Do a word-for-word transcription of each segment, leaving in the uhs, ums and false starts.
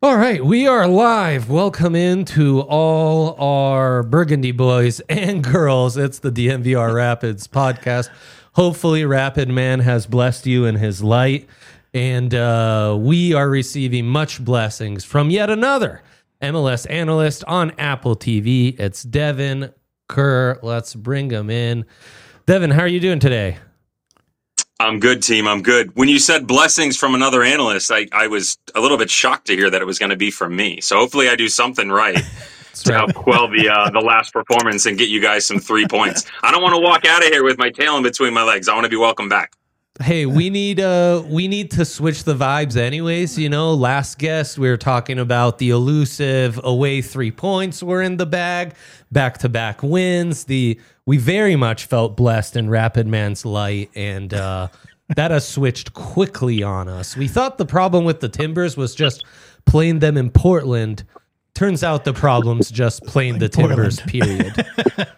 All right, we are live. Welcome in to all our Burgundy boys and girls. It's the D N V R Rapids podcast. Hopefully, Rapid Man has blessed you in his light, and uh, we are receiving much blessings from yet another M L S analyst on Apple T V. It's Devin Kerr. Let's bring him in. Devin, how are you doing today? I'm good, team. I'm good. When you said blessings from another analyst, I, I was a little bit shocked to hear that it was going to be from me. So hopefully I do something right to right. help quell the uh, the last performance and get you guys some three points. I don't want to walk out of here with my tail in between my legs. I want to be welcome back. Hey, we need uh we need to switch the vibes anyways, you know. Last guest we were talking about the elusive away three points were in the bag, back-to-back wins. The we very much felt blessed in Rapid Man's light, and uh that has switched quickly on us. We thought the problem with the Timbers was just playing them in Portland. Turns out the problem's just playing the Timbers, period.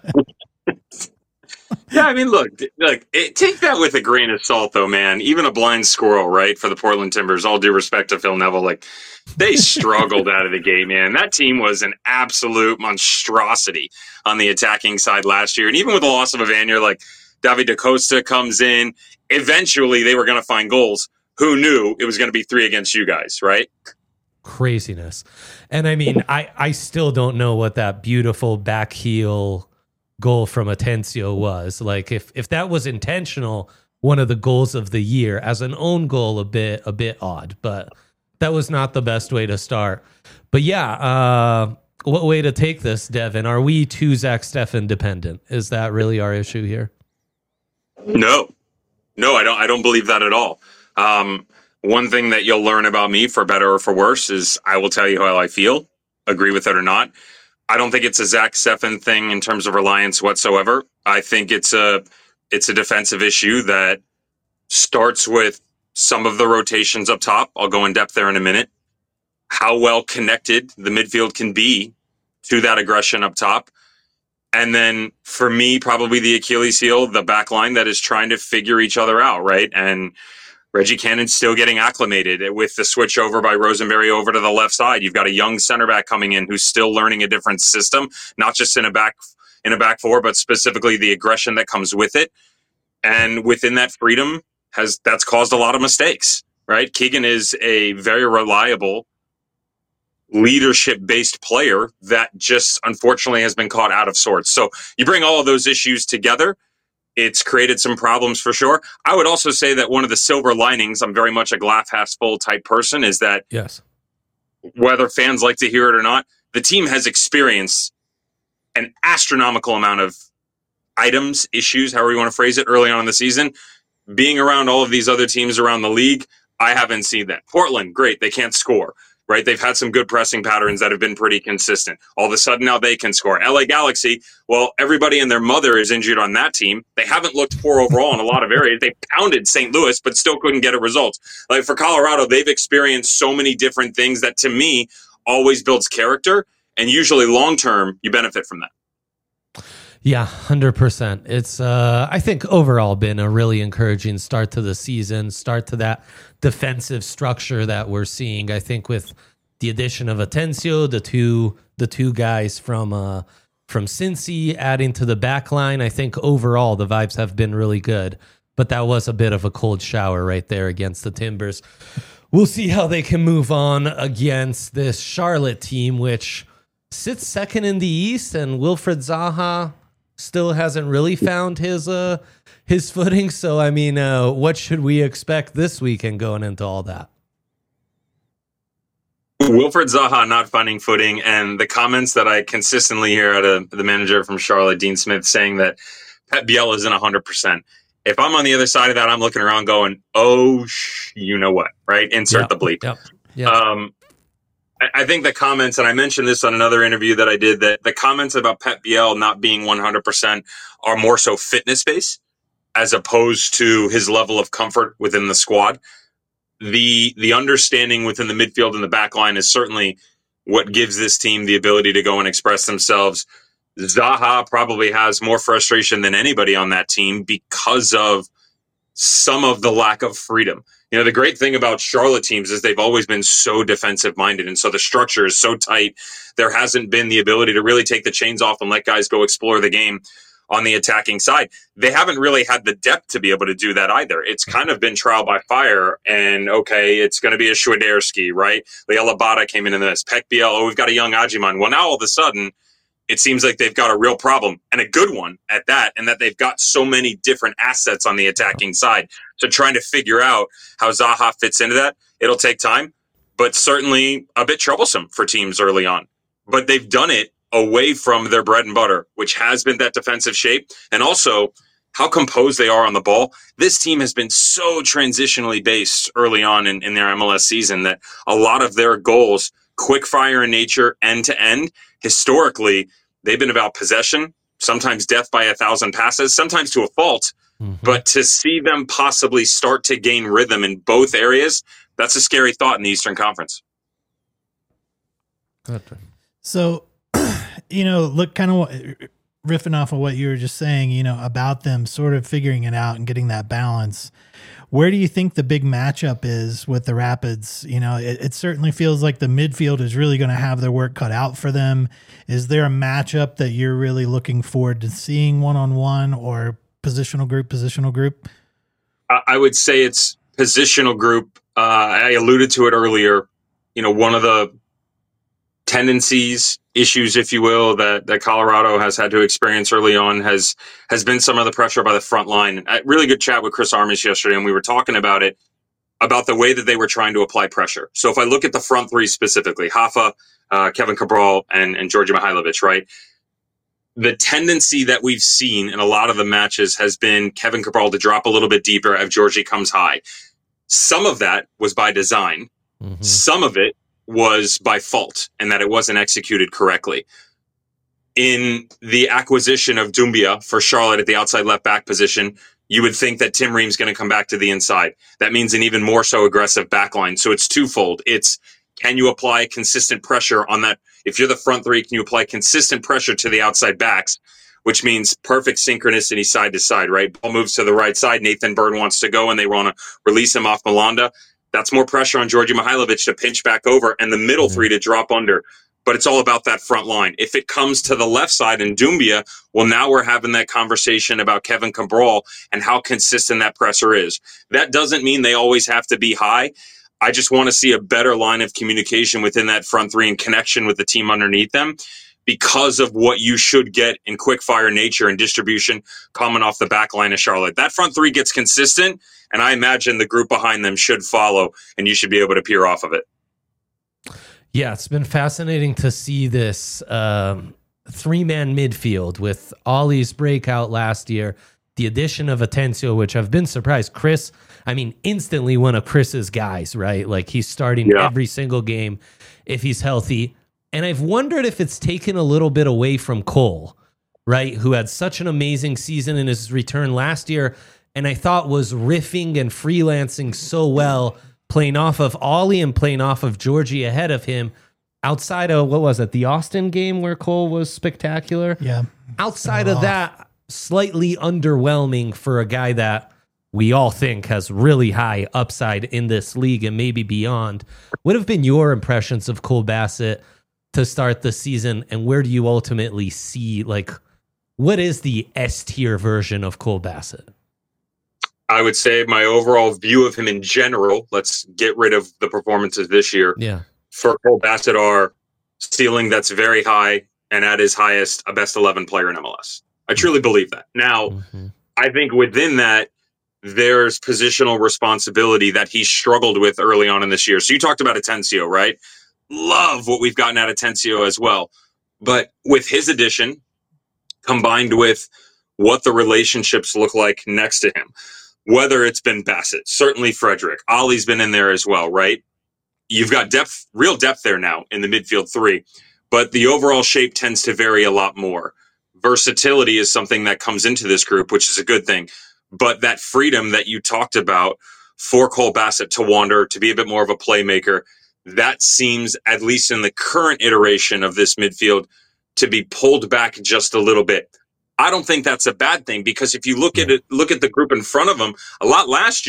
Yeah, I mean, look, look. It, take that with a grain of salt, though, man. Even a blind squirrel, right? For the Portland Timbers, all due respect to Phil Neville, like they struggled out of the gate, man. That team was an absolute monstrosity on the attacking side last year, and even with the loss of Evanier, like David DaCosta comes in. Eventually, they were going to find goals. Who knew it was going to be three against you guys, right? Craziness, and I mean, I I still don't know what that beautiful back heel goal from Atencio was. Like if if that was intentional, one of the goals of the year. As an own goal, a bit a bit odd, but that was not the best way to start. But yeah, uh, what way to take this, Devin? Are we too Zach Steffen dependent? Is that really our issue here? No, no, I don't. I don't believe that at all. Um, one thing that you'll learn about me, for better or for worse, is I will tell you how I feel. Agree with it or not. I don't think it's a Zach Steffen thing in terms of reliance whatsoever. I think it's a it's a defensive issue that starts with some of the rotations up top. I'll go in depth there in a minute. How well connected the midfield can be to that aggression up top. And then for me, probably the Achilles heel, the back line that is trying to figure each other out, right? And Reggie Cannon's still getting acclimated with the switch over by Rosenberry over to the left side. You've got a young center back coming in who's still learning a different system, not just in a back in a back four, but specifically the aggression that comes with it. And within that freedom has that's caused a lot of mistakes, right? Keegan is a very reliable leadership-based player that just unfortunately has been caught out of sorts. So you bring all of those issues together, it's created some problems for sure. I would also say that one of the silver linings, I'm very much a glass half full type person, is that yes, whether fans like to hear it or not, the team has experienced an astronomical amount of items, issues, however you want to phrase it, early on in the season. Being around all of these other teams around the league, I haven't seen that. Portland, great, they can't score. Right, they've had some good pressing patterns that have been pretty consistent. All of a sudden now they can score. L A Galaxy, well, everybody and their mother is injured on that team. They haven't looked poor overall in a lot of areas. They pounded Saint Louis, but still couldn't get a result. Like for Colorado, they've experienced so many different things that to me always builds character, and usually long term you benefit from that. Yeah, one hundred percent. It's, uh, I think, overall been a really encouraging start to the season, start to that defensive structure that we're seeing. I think with the addition of Atencio, the two the two guys from uh, from Cincy adding to the back line, I think overall the vibes have been really good. But that was a bit of a cold shower right there against the Timbers. We'll see how they can move on against this Charlotte team, which sits second in the East, and Wilfried Zaha still hasn't really found his uh his footing. So I mean, uh, what should we expect this weekend going into all that? Wilfried Zaha not finding footing, and the comments that I consistently hear out of the manager from Charlotte, Dean Smith, saying that Pep Biel isn't one hundred percent. If I'm on the other side of that, I'm looking around going, oh, sh- you know what, right? Insert yep, the bleep. Yep, yep. Um, I think the comments, and I mentioned this on another interview that I did, that the comments about Pep Biel not being one hundred percent are more so fitness-based as opposed to his level of comfort within the squad. The the understanding within the midfield and the back line is certainly what gives this team the ability to go and express themselves. Zaha probably has more frustration than anybody on that team because of some of the lack of freedom. You know, the great thing about Charlotte teams is they've always been so defensive minded. And so the structure is so tight. There hasn't been the ability to really take the chains off and let guys go explore the game on the attacking side. They haven't really had the depth to be able to do that either. It's kind of been trial by fire. And okay, it's going to be a Schwiderski, right? Liel Abada came into this. Pek Biel, oh, we've got a young Ajiman. Well, now all of a sudden, it seems like they've got a real problem, and a good one at that, and that they've got so many different assets on the attacking side. So trying to figure out how Zaha fits into that, it'll take time, but certainly a bit troublesome for teams early on. But they've done it away from their bread and butter, which has been that defensive shape, and also how composed they are on the ball. This team has been so transitionally based early on in, in their M L S season that a lot of their goals, quick fire in nature, end to end, historically, they've been about possession, sometimes death by a thousand passes, sometimes to a fault. Mm-hmm. But to see them possibly start to gain rhythm in both areas, that's a scary thought in the Eastern Conference. So, you know, look, kind of riffing off of what you were just saying, you know, about them sort of figuring it out and getting that balance. Where do you think the big matchup is with the Rapids? You know, it, it certainly feels like the midfield is really going to have their work cut out for them. Is there a matchup that you're really looking forward to seeing one-on-one or positional group, positional group? I would say it's positional group. Uh, I alluded to it earlier. You know, one of the tendencies, issues, if you will, that, that Colorado has had to experience early on has has been some of the pressure by the front line. A really good chat with Chris Armish yesterday, and we were talking about it, about the way that they were trying to apply pressure. So if I look at the front three specifically, Hafa, uh, Kevin Cabral, and, and Georgi Mihailovic, right? The tendency that we've seen in a lot of the matches has been Kevin Cabral to drop a little bit deeper as Georgi comes high. Some of that was by design. Mm-hmm. Some of it was by fault and that it wasn't executed correctly. In the acquisition of Doumbia for Charlotte at the outside left back position, you would think that Tim Ream's going to come back to the inside. That means an even more so aggressive backline. So it's twofold. It's, can you apply consistent pressure on that? If you're the front three, can you apply consistent pressure to the outside backs, which means perfect synchronicity side to side, right? Ball moves to the right side. Nathan Bird wants to go and they want to release him off Malanda. That's more pressure on Georgi Mihailovic to pinch back over and the middle mm-hmm. three to drop under. But it's all about that front line. If it comes to the left side in Doumbia, well, now we're having that conversation about Kevin Cabral and how consistent that presser is. That doesn't mean they always have to be high. I just want to see a better line of communication within that front three and connection with the team underneath them because of what you should get in quick fire nature and distribution coming off the back line of Charlotte. That front three gets consistent, and I imagine the group behind them should follow, and you should be able to peer off of it. Yeah, it's been fascinating to see this um, three-man midfield with Ollie's breakout last year, the addition of Atencio, which I've been surprised. Chris, I mean, instantly one of Chris's guys, right? Like he's starting yeah. every single game if he's healthy. And I've wondered if it's taken a little bit away from Cole, right? Who had such an amazing season in his return last year, and I thought was riffing and freelancing so well, playing off of Ollie and playing off of Georgie ahead of him. Outside of, what was it, the Austin game where Cole was spectacular? Yeah. Outside of that, slightly underwhelming for a guy that we all think has really high upside in this league and maybe beyond. What have been your impressions of Cole Bassett to start the season, and where do you ultimately see, like, what is the S-tier version of Cole Bassett? I would say my overall view of him in general, let's get rid of the performances this year. Yeah. For Cole Bassett are ceiling that's very high and at his highest, a best eleven player in M L S. I truly believe that. Now, mm-hmm. I think within that, there's positional responsibility that he struggled with early on in this year. So you talked about Atencio, right? Love what we've gotten out of Atencio as well. But with his addition, combined with what the relationships look like next to him, whether it's been Bassett, certainly Frederick, Ollie's been in there as well, right? You've got depth, real depth there now in the midfield three, but the overall shape tends to vary a lot more. Versatility is something that comes into this group, which is a good thing. But that freedom that you talked about for Cole Bassett to wander, to be a bit more of a playmaker, that seems, at least in the current iteration of this midfield, to be pulled back just a little bit. I don't think that's a bad thing, because if you look at it, look at the group in front of him, a lot last year,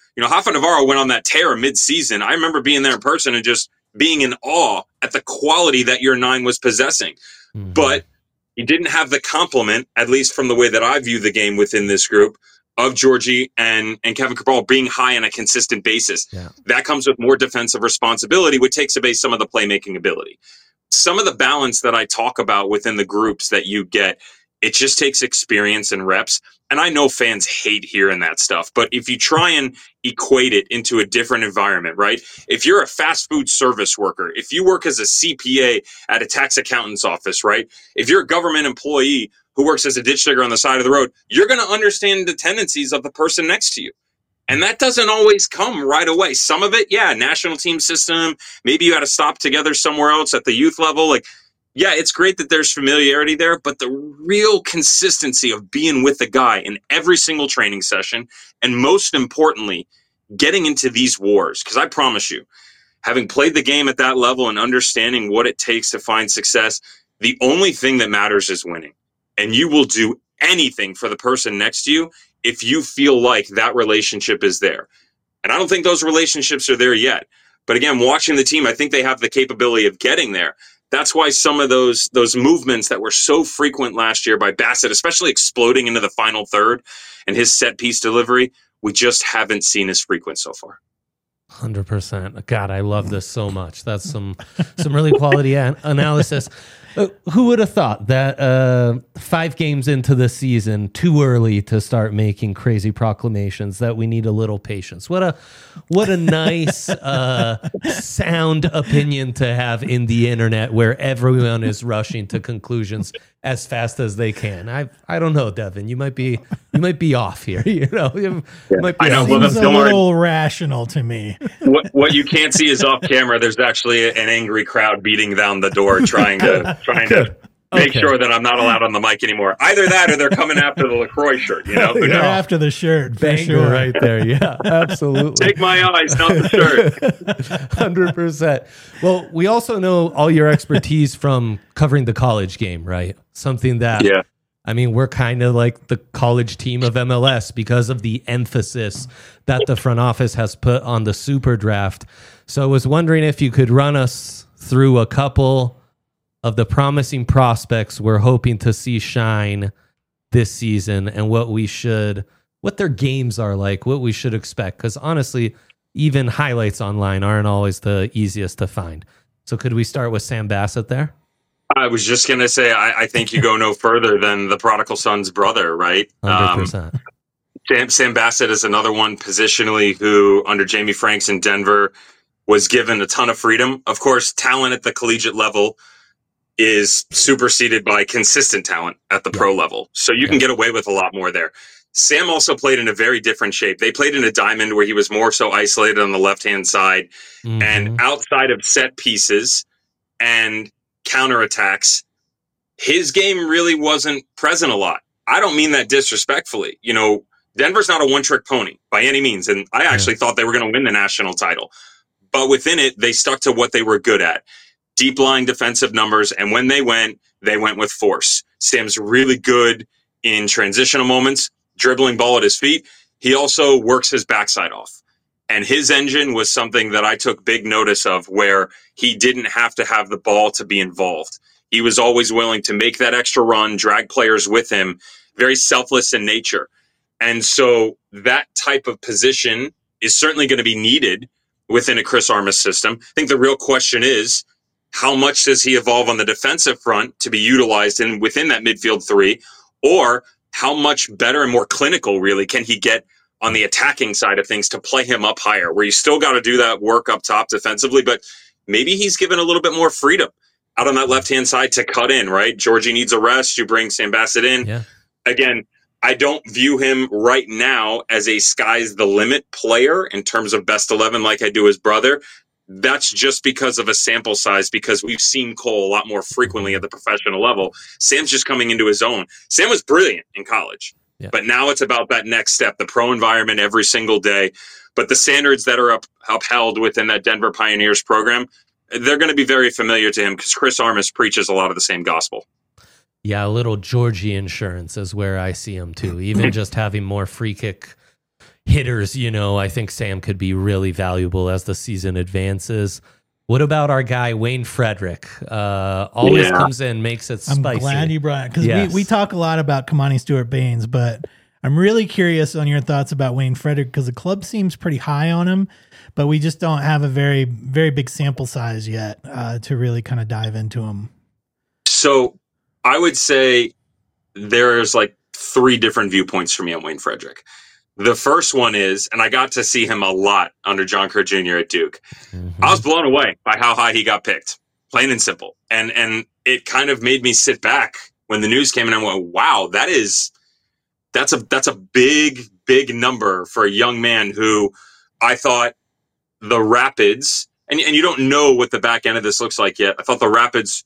You know, Rafa Navarro went on that tear mid-season. I remember being there in person and just being in awe at the quality that your nine was possessing. Mm-hmm. But he didn't have the complement, at least from the way that I view the game within this group, of Georgie and, and Kevin Cabral being high on a consistent basis. Yeah. That comes with more defensive responsibility, which takes away some of the playmaking ability. Some of the balance that I talk about within the groups that you get, it just takes experience and reps. And I know fans hate hearing that stuff, but if you try and equate it into a different environment, right? If you're a fast food service worker, if you work as a C P A at a tax accountant's office, right? If you're a government employee who works as a ditch digger on the side of the road, you're going to understand the tendencies of the person next to you. And that doesn't always come right away. Some of it, yeah, national team system, maybe you had to stop together somewhere else at the youth level. Like, yeah, it's great that there's familiarity there, but the real consistency of being with the guy in every single training session, and most importantly, getting into these wars. Because I promise you, having played the game at that level and understanding what it takes to find success, the only thing that matters is winning. And you will do anything for the person next to you if you feel like that relationship is there. And I don't think those relationships are there yet. But again, watching the team, I think they have the capability of getting there. That's why some of those those movements that were so frequent last year by Bassett, especially exploding into the final third and his set piece delivery, we just haven't seen as frequent so far. one hundred percent. God, I love this so much. That's some some really quality an- analysis. Uh, who would have thought that uh, five games into the season, too early to start making crazy proclamations that we need a little patience? What a what a nice, uh, sound opinion to have in the internet, where everyone is rushing to conclusions as fast as they can. I I don't know, Devin. You might be you might be off here. You know, you yeah. might be I know. Seems a little rational to me. What what you can't see is off camera. There's actually an angry crowd beating down the door, trying to. trying to make okay. sure that I'm not allowed on the mic anymore. Either that or they're coming after the LaCroix shirt, you know? They're after the shirt, for Banger sure. right there. Yeah, absolutely. Take my eyes, not the shirt. one hundred percent. Well, we also know all your expertise from covering the college game, right? Something that, yeah. I mean, we're kind of like the college team of M L S because of the emphasis that the front office has put on the super draft. So I was wondering if you could run us through a couple of the promising prospects we're hoping to see shine this season, and what we should, what their games are like, what we should expect. Because honestly, even highlights online aren't always the easiest to find. So could we start with Sam Bassett there? I was just going to say, I, I think you go no further than the prodigal son's brother, right? one hundred percent. Um, Sam, Sam Bassett is another one positionally who, under Jamie Franks in Denver, was given a ton of freedom. Of course, talent at the collegiate level is superseded by consistent talent at the yeah. pro level. So you yeah. can get away with a lot more there. Sam also played in a very different shape. They played in a diamond where he was more so isolated on the left-hand side. Mm-hmm. And outside of set pieces and counterattacks, his game really wasn't present a lot. I don't mean that disrespectfully. You know, Denver's not a one-trick pony by any means. And I actually yeah. thought they were going to win the national title. But within it, they stuck to what they were good at. Deep lying defensive numbers, and when they went, they went with force. Sam's really good in transitional moments, dribbling ball at his feet. He also works his backside off. And his engine was something that I took big notice of, where he didn't have to have the ball to be involved. He was always willing to make that extra run, drag players with him, very selfless in nature. And so that type of position is certainly going to be needed within a Chris Armas system. I think the real question is, how much does he evolve on the defensive front to be utilized in within that midfield three? Or how much better and more clinical really can he get on the attacking side of things to play him up higher, where you still got to do that work up top defensively, but maybe he's given a little bit more freedom out on that left-hand side to cut in, right? Georgie needs a rest. You bring Sam Bassett in. Yeah. Again, I don't view him right now as a sky's the limit player in terms of best eleven like I do his brother. That's just because of a sample size, because we've seen Cole a lot more frequently at the professional level. Sam's just coming into his own. Sam was brilliant in college, yeah. but now it's about that next step, the pro environment every single day. But the standards that are up, upheld within that Denver Pioneers program, they're going to be very familiar to him, because Chris Armas preaches a lot of the same gospel. Yeah, a little Georgie insurance is where I see him too. Even just having more free kick hitters, you know, I think Sam could be really valuable as the season advances. What about our guy, Wayne Frederick? Uh, always yeah. comes in, makes it spicy. I'm glad you brought it, because yes. we, we talk a lot about Kamani Stewart-Baines, but I'm really curious on your thoughts about Wayne Frederick, because the club seems pretty high on him, but we just don't have a very, very big sample size yet uh, to really kind of dive into him. So I would say there's like three different viewpoints for me on Wayne Frederick. The first one is, and I got to see him a lot under John Kerr Junior at Duke. Mm-hmm. I was blown away by how high he got picked, plain and simple. And and it kind of made me sit back when the news came in and I went, wow, that is that's a that's a big, big number for a young man who I thought the Rapids, and, and you don't know what the back end of this looks like yet. I thought the Rapids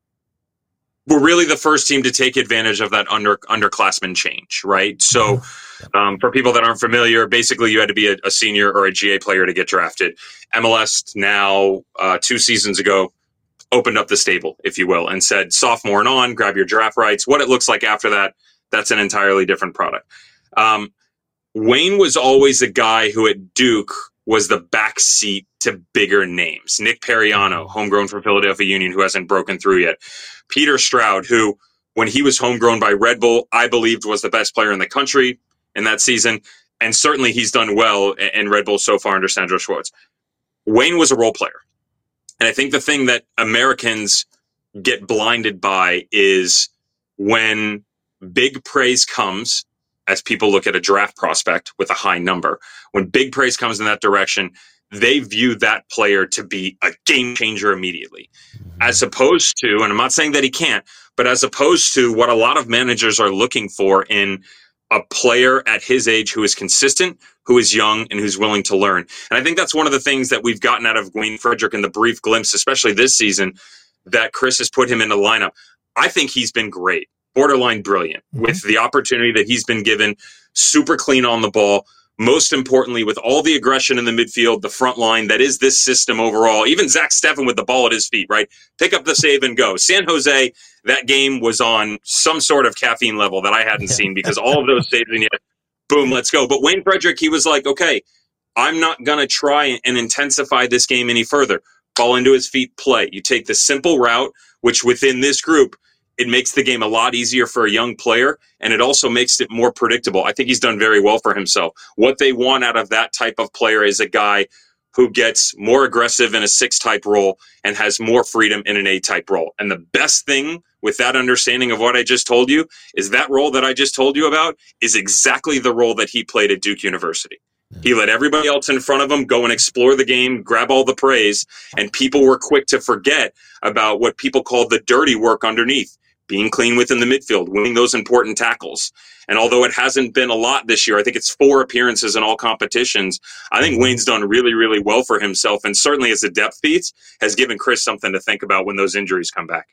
were really the first team to take advantage of that under underclassmen change, right? So um, for people that aren't familiar, basically you had to be a, a senior or a G A player to get drafted. M L S now, uh, two seasons ago, opened up the stable, if you will, and said sophomore and on, grab your draft rights. What it looks like after that, that's an entirely different product. Um, Wayne was always a guy who at Duke was the backseat to bigger names. Nick Periano, homegrown from Philadelphia Union, who hasn't broken through yet. Peter Stroud, who, when he was homegrown by Red Bull, I believed was the best player in the country in that season. And certainly he's done well in Red Bull so far under Sandro Schwartz. Wayne was a role player. And I think the thing that Americans get blinded by is when big praise comes, as people look at a draft prospect with a high number, when big praise comes in that direction, they view that player to be a game changer immediately. Mm-hmm. As opposed to, and I'm not saying that he can't, but as opposed to what a lot of managers are looking for in a player at his age who is consistent, who is young, and who's willing to learn. And I think that's one of the things that we've gotten out of Wayne Frederick in the brief glimpse, especially this season, that Chris has put him in the lineup. I think he's been great, borderline brilliant, mm-hmm. with the opportunity that he's been given, super clean on the ball. Most importantly, with all the aggression in the midfield, the front line, that is this system overall. Even Zach Steffen with the ball at his feet, right? Pick up the save and go. San Jose, that game was on some sort of caffeine level that I hadn't seen, because all of those saves and yet, boom, let's go. But Wayne Frederick, he was like, okay, I'm not going to try and intensify this game any further. Ball into his feet, play. You take the simple route, which within this group, it makes the game a lot easier for a young player, and it also makes it more predictable. I think he's done very well for himself. What they want out of that type of player is a guy who gets more aggressive in a six-type role and has more freedom in an eight-type role. And the best thing with that understanding of what I just told you is that role that I just told you about is exactly the role that he played at Duke University. He let everybody else in front of him go and explore the game, grab all the praise, and people were quick to forget about what people call the dirty work underneath. Being clean within the midfield, winning those important tackles. And although it hasn't been a lot this year, I think it's four appearances in all competitions. I think Wayne's done really, really well for himself. And certainly as a depth piece has given Chris something to think about when those injuries come back.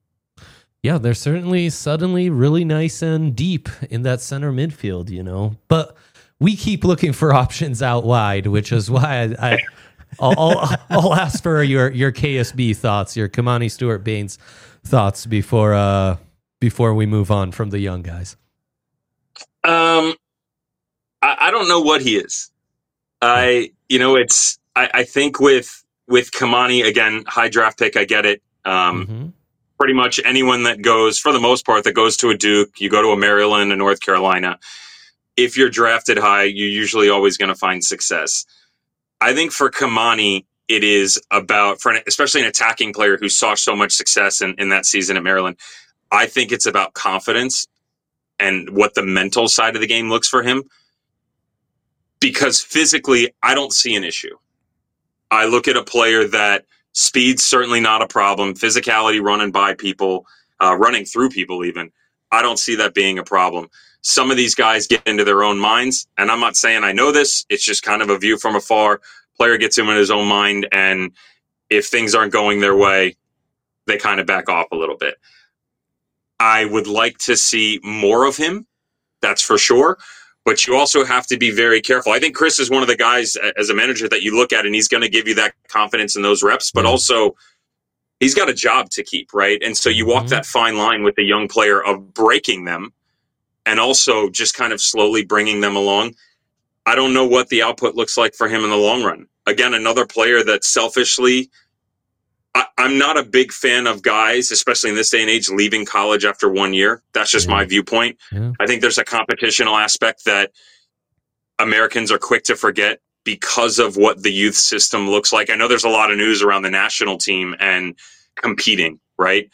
Yeah, they're certainly suddenly really nice and deep in that center midfield, you know. But we keep looking for options out wide, which is why I... I I'll, I'll, I'll ask for your, your K S B thoughts, your Kamani Stewart-Baines thoughts before uh, before we move on from the young guys. Um, I, I don't know what he is. I you know it's I, I think with with Kamani, again, high draft pick, I get it. Um, mm-hmm. Pretty much anyone that goes, for the most part, that goes to a Duke, you go to a Maryland, a North Carolina. If you're drafted high, you're usually always going to find success. I think for Kamani, it is about, for an, especially an attacking player who saw so much success in, in that season at Maryland, I think it's about confidence and what the mental side of the game looks for him. Because physically, I don't see an issue. I look at a player that speed's certainly not a problem. Physicality, running by people, uh, running through people even, I don't see that being a problem. Some of these guys get into their own minds, and I'm not saying I know this. It's just kind of a view from afar. Player gets him in his own mind, and if things aren't going their way, they kind of back off a little bit. I would like to see more of him, that's for sure, but you also have to be very careful. I think Chris is one of the guys as a manager that you look at, and he's going to give you that confidence in those reps, but also he's got a job to keep, right? And so you walk mm-hmm. that fine line with a young player of breaking them and also just kind of slowly bringing them along. I don't know what the output looks like for him in the long run. Again, another player that selfishly, I, I'm not a big fan of guys, especially in this day and age, leaving college after one year. That's just yeah. my viewpoint. Yeah. I think there's a competitional aspect that Americans are quick to forget because of what the youth system looks like. I know there's a lot of news around the national team and competing, right?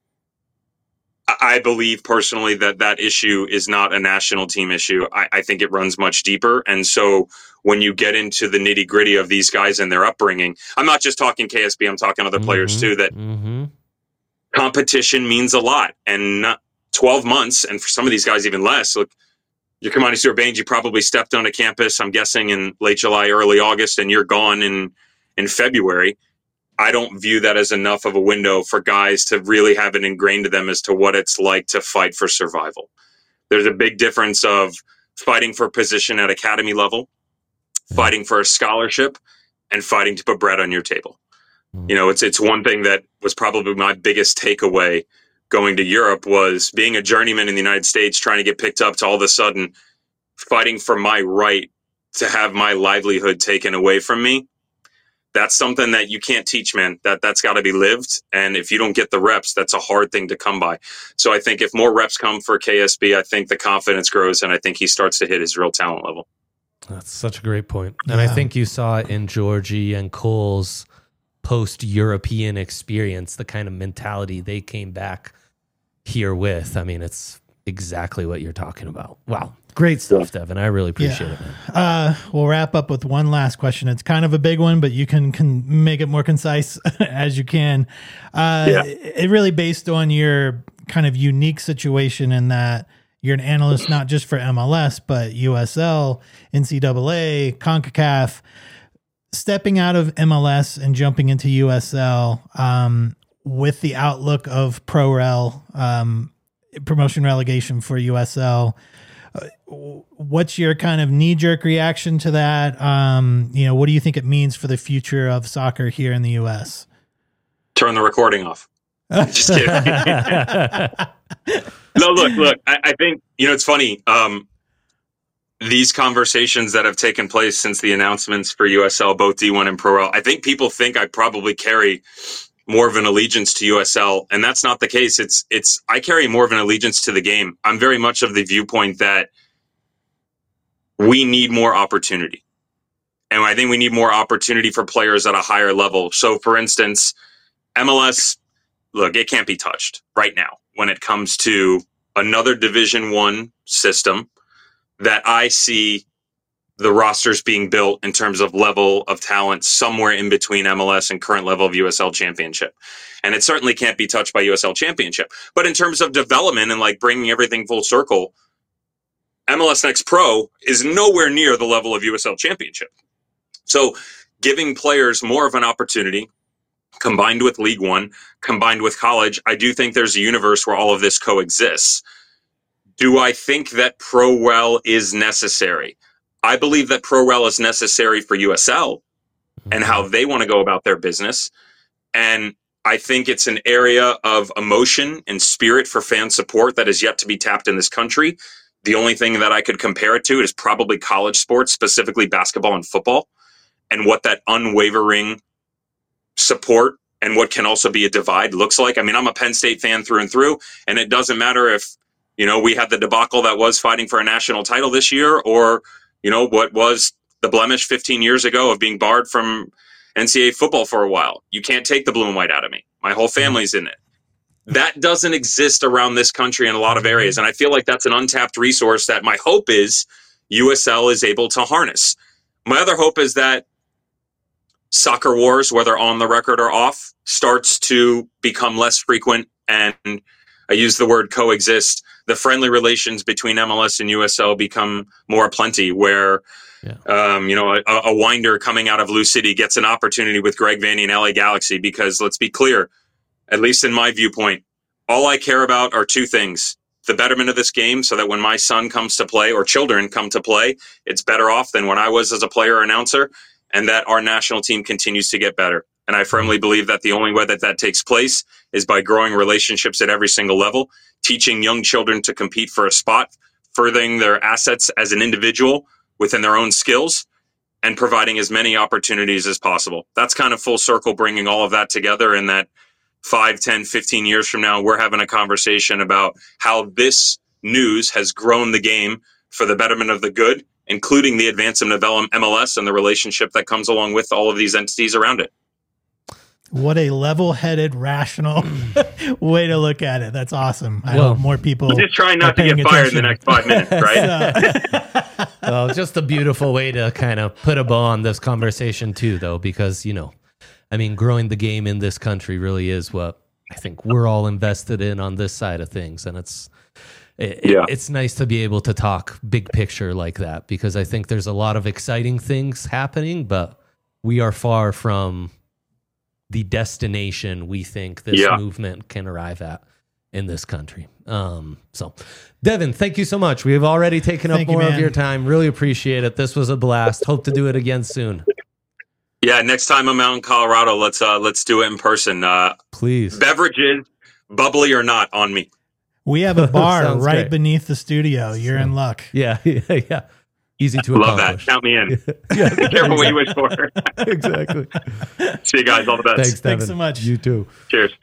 I believe personally that that issue is not a national team issue. I, I think it runs much deeper. And so when you get into the nitty gritty of these guys and their upbringing, I'm not just talking K S B, I'm talking other mm-hmm. players too, that mm-hmm. competition means a lot. And not twelve months, and for some of these guys, even less. Look, you're Kamani Stewart-Baines, you probably stepped onto campus, I'm guessing, in late July, early August, and you're gone in, in February. I don't view that as enough of a window for guys to really have it ingrained to them as to what it's like to fight for survival. There's a big difference of fighting for a position at academy level, yeah. fighting for a scholarship, and fighting to put bread on your table. Mm. You know, it's it's one thing that was probably my biggest takeaway going to Europe was being a journeyman in the United States, trying to get picked up to all of a sudden fighting for my right to have my livelihood taken away from me. That's something that you can't teach, man. That, that's got to be lived. And if you don't get the reps, that's a hard thing to come by. So I think if more reps come for K S B, I think the confidence grows, and I think he starts to hit his real talent level. That's such a great point. And yeah. I think you saw it in Georgie and Cole's post-European experience, the kind of mentality they came back here with. I mean, it's exactly what you're talking about. Wow. Great stuff, Devin. I really appreciate yeah. it, man. Uh, we'll wrap up with one last question. It's kind of a big one, but you can, can make it more concise as you can. Uh, yeah. It really based on your kind of unique situation in that you're an analyst not just for M L S, but U S L, N C double A, CONCACAF. Stepping out of M L S and jumping into U S L um, with the outlook of pro-rel, um, promotion relegation for U S L, Uh, what's your kind of knee-jerk reaction to that? Um, you know, what do you think it means for the future of soccer here in the U S? Turn the recording off. Just kidding. No, look, look. I, I think, you know, it's funny. Um, these conversations that have taken place since the announcements for U S L, both D one and Pro L, I think people think I probably carry more of an allegiance to U S L, and that's not the case. It's it's I carry more of an allegiance to the game. I'm very much of the viewpoint that we need more opportunity. And I think we need more opportunity for players at a higher level. So for instance, M L S, look, it can't be touched right now when it comes to another Division One system that I see the rosters being built in terms of level of talent somewhere in between M L S and current level of U S L Championship. And it certainly can't be touched by U S L Championship. But in terms of development and like bringing everything full circle, M L S Next Pro is nowhere near the level of U S L Championship. So giving players more of an opportunity, combined with League One, combined with college, I do think there's a universe where all of this coexists. Do I think that Pro-Rel is necessary? I believe that Pro-Rel is necessary for U S L and how they want to go about their business. And I think it's an area of emotion and spirit for fan support that is yet to be tapped in this country. The only thing that I could compare it to is probably college sports, specifically basketball and football, and what that unwavering support and what can also be a divide looks like. I mean, I'm a Penn State fan through and through, and it doesn't matter if, you know, we had the debacle that was fighting for a national title this year, or you know, what was the blemish fifteen years ago of being barred from N C double A football for a while. You can't take the blue and white out of me. My whole family's in it. That doesn't exist around this country in a lot of areas. And I feel like that's an untapped resource that my hope is U S L is able to harness. My other hope is that soccer wars, whether on the record or off, starts to become less frequent. And I use the word coexist. The friendly relations between M L S and U S L become more aplenty, where, yeah. um, you know, a, a winder coming out of Lou City gets an opportunity with Greg Vanney and L A Galaxy, because let's be clear, at least in my viewpoint, all I care about are two things: the betterment of this game, so that when my son comes to play or children come to play, it's better off than when I was as a player or announcer, and that our national team continues to get better. And I firmly believe that the only way that that takes place is by growing relationships at every single level, teaching young children to compete for a spot, furthering their assets as an individual within their own skills and providing as many opportunities as possible. That's kind of full circle, bringing all of that together, and that five, ten, fifteen years from now, we're having a conversation about how this news has grown the game for the betterment of the good, including the advancement of M L S and the relationship that comes along with all of these entities around it. What a level-headed, rational way to look at it. That's awesome. I Well, hope more people I'm just trying not to are paying get fired in the attention. next five minutes, right? So- Well, just a beautiful way to kind of put a bow on this conversation too, though, because, you know, I mean, growing the game in this country really is what I think we're all invested in on this side of things. And it's, it, Yeah. it's nice to be able to talk big picture like that, because I think there's a lot of exciting things happening, but we are far from the destination we think this Yeah. movement can arrive at in this country. Um, so, Devin, thank you so much. We have already taken up Thank you, more of man. your time. Really appreciate it. This was a blast. Hope to do it again soon. Yeah, next time I'm out in Colorado, let's uh, let's do it in person. Uh, Please. beverages, bubbly or not, on me. we have a bar Sounds right great. beneath the studio. You're in luck. Yeah, yeah, yeah. Easy to Love that. accomplish. Count me in. Yeah, Be careful what you wish for. exactly. See you guys. All the best. Thanks, Devin. Thanks so much. You too. Cheers.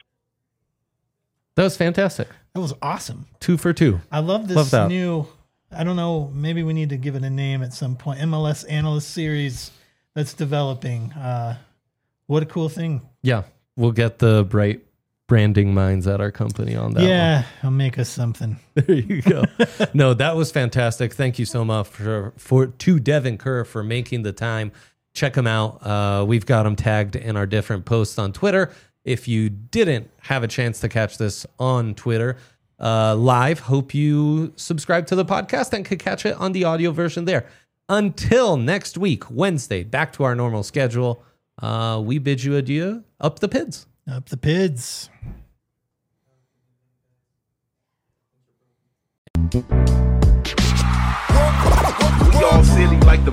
That was fantastic. That was awesome. Two for two. I love this Love that. new, I don't know, maybe we need to give it a name at some point. M L S analyst series that's developing. Uh, what a cool thing. Yeah, we'll get the bright branding minds at our company on that one. yeah, I'll make us something. There you go. No, that was fantastic. Thank you so much for, for to Devin Kerr for making the time. Check him out. Uh, we've got him tagged in our different posts on Twitter. If you didn't have a chance to catch this on Twitter uh, live, hope you subscribe to the podcast and could catch it on the audio version there. Until next week, Wednesday, back to our normal schedule. Uh, we bid you adieu. Up the Pids. Up the Pids. We all silly like the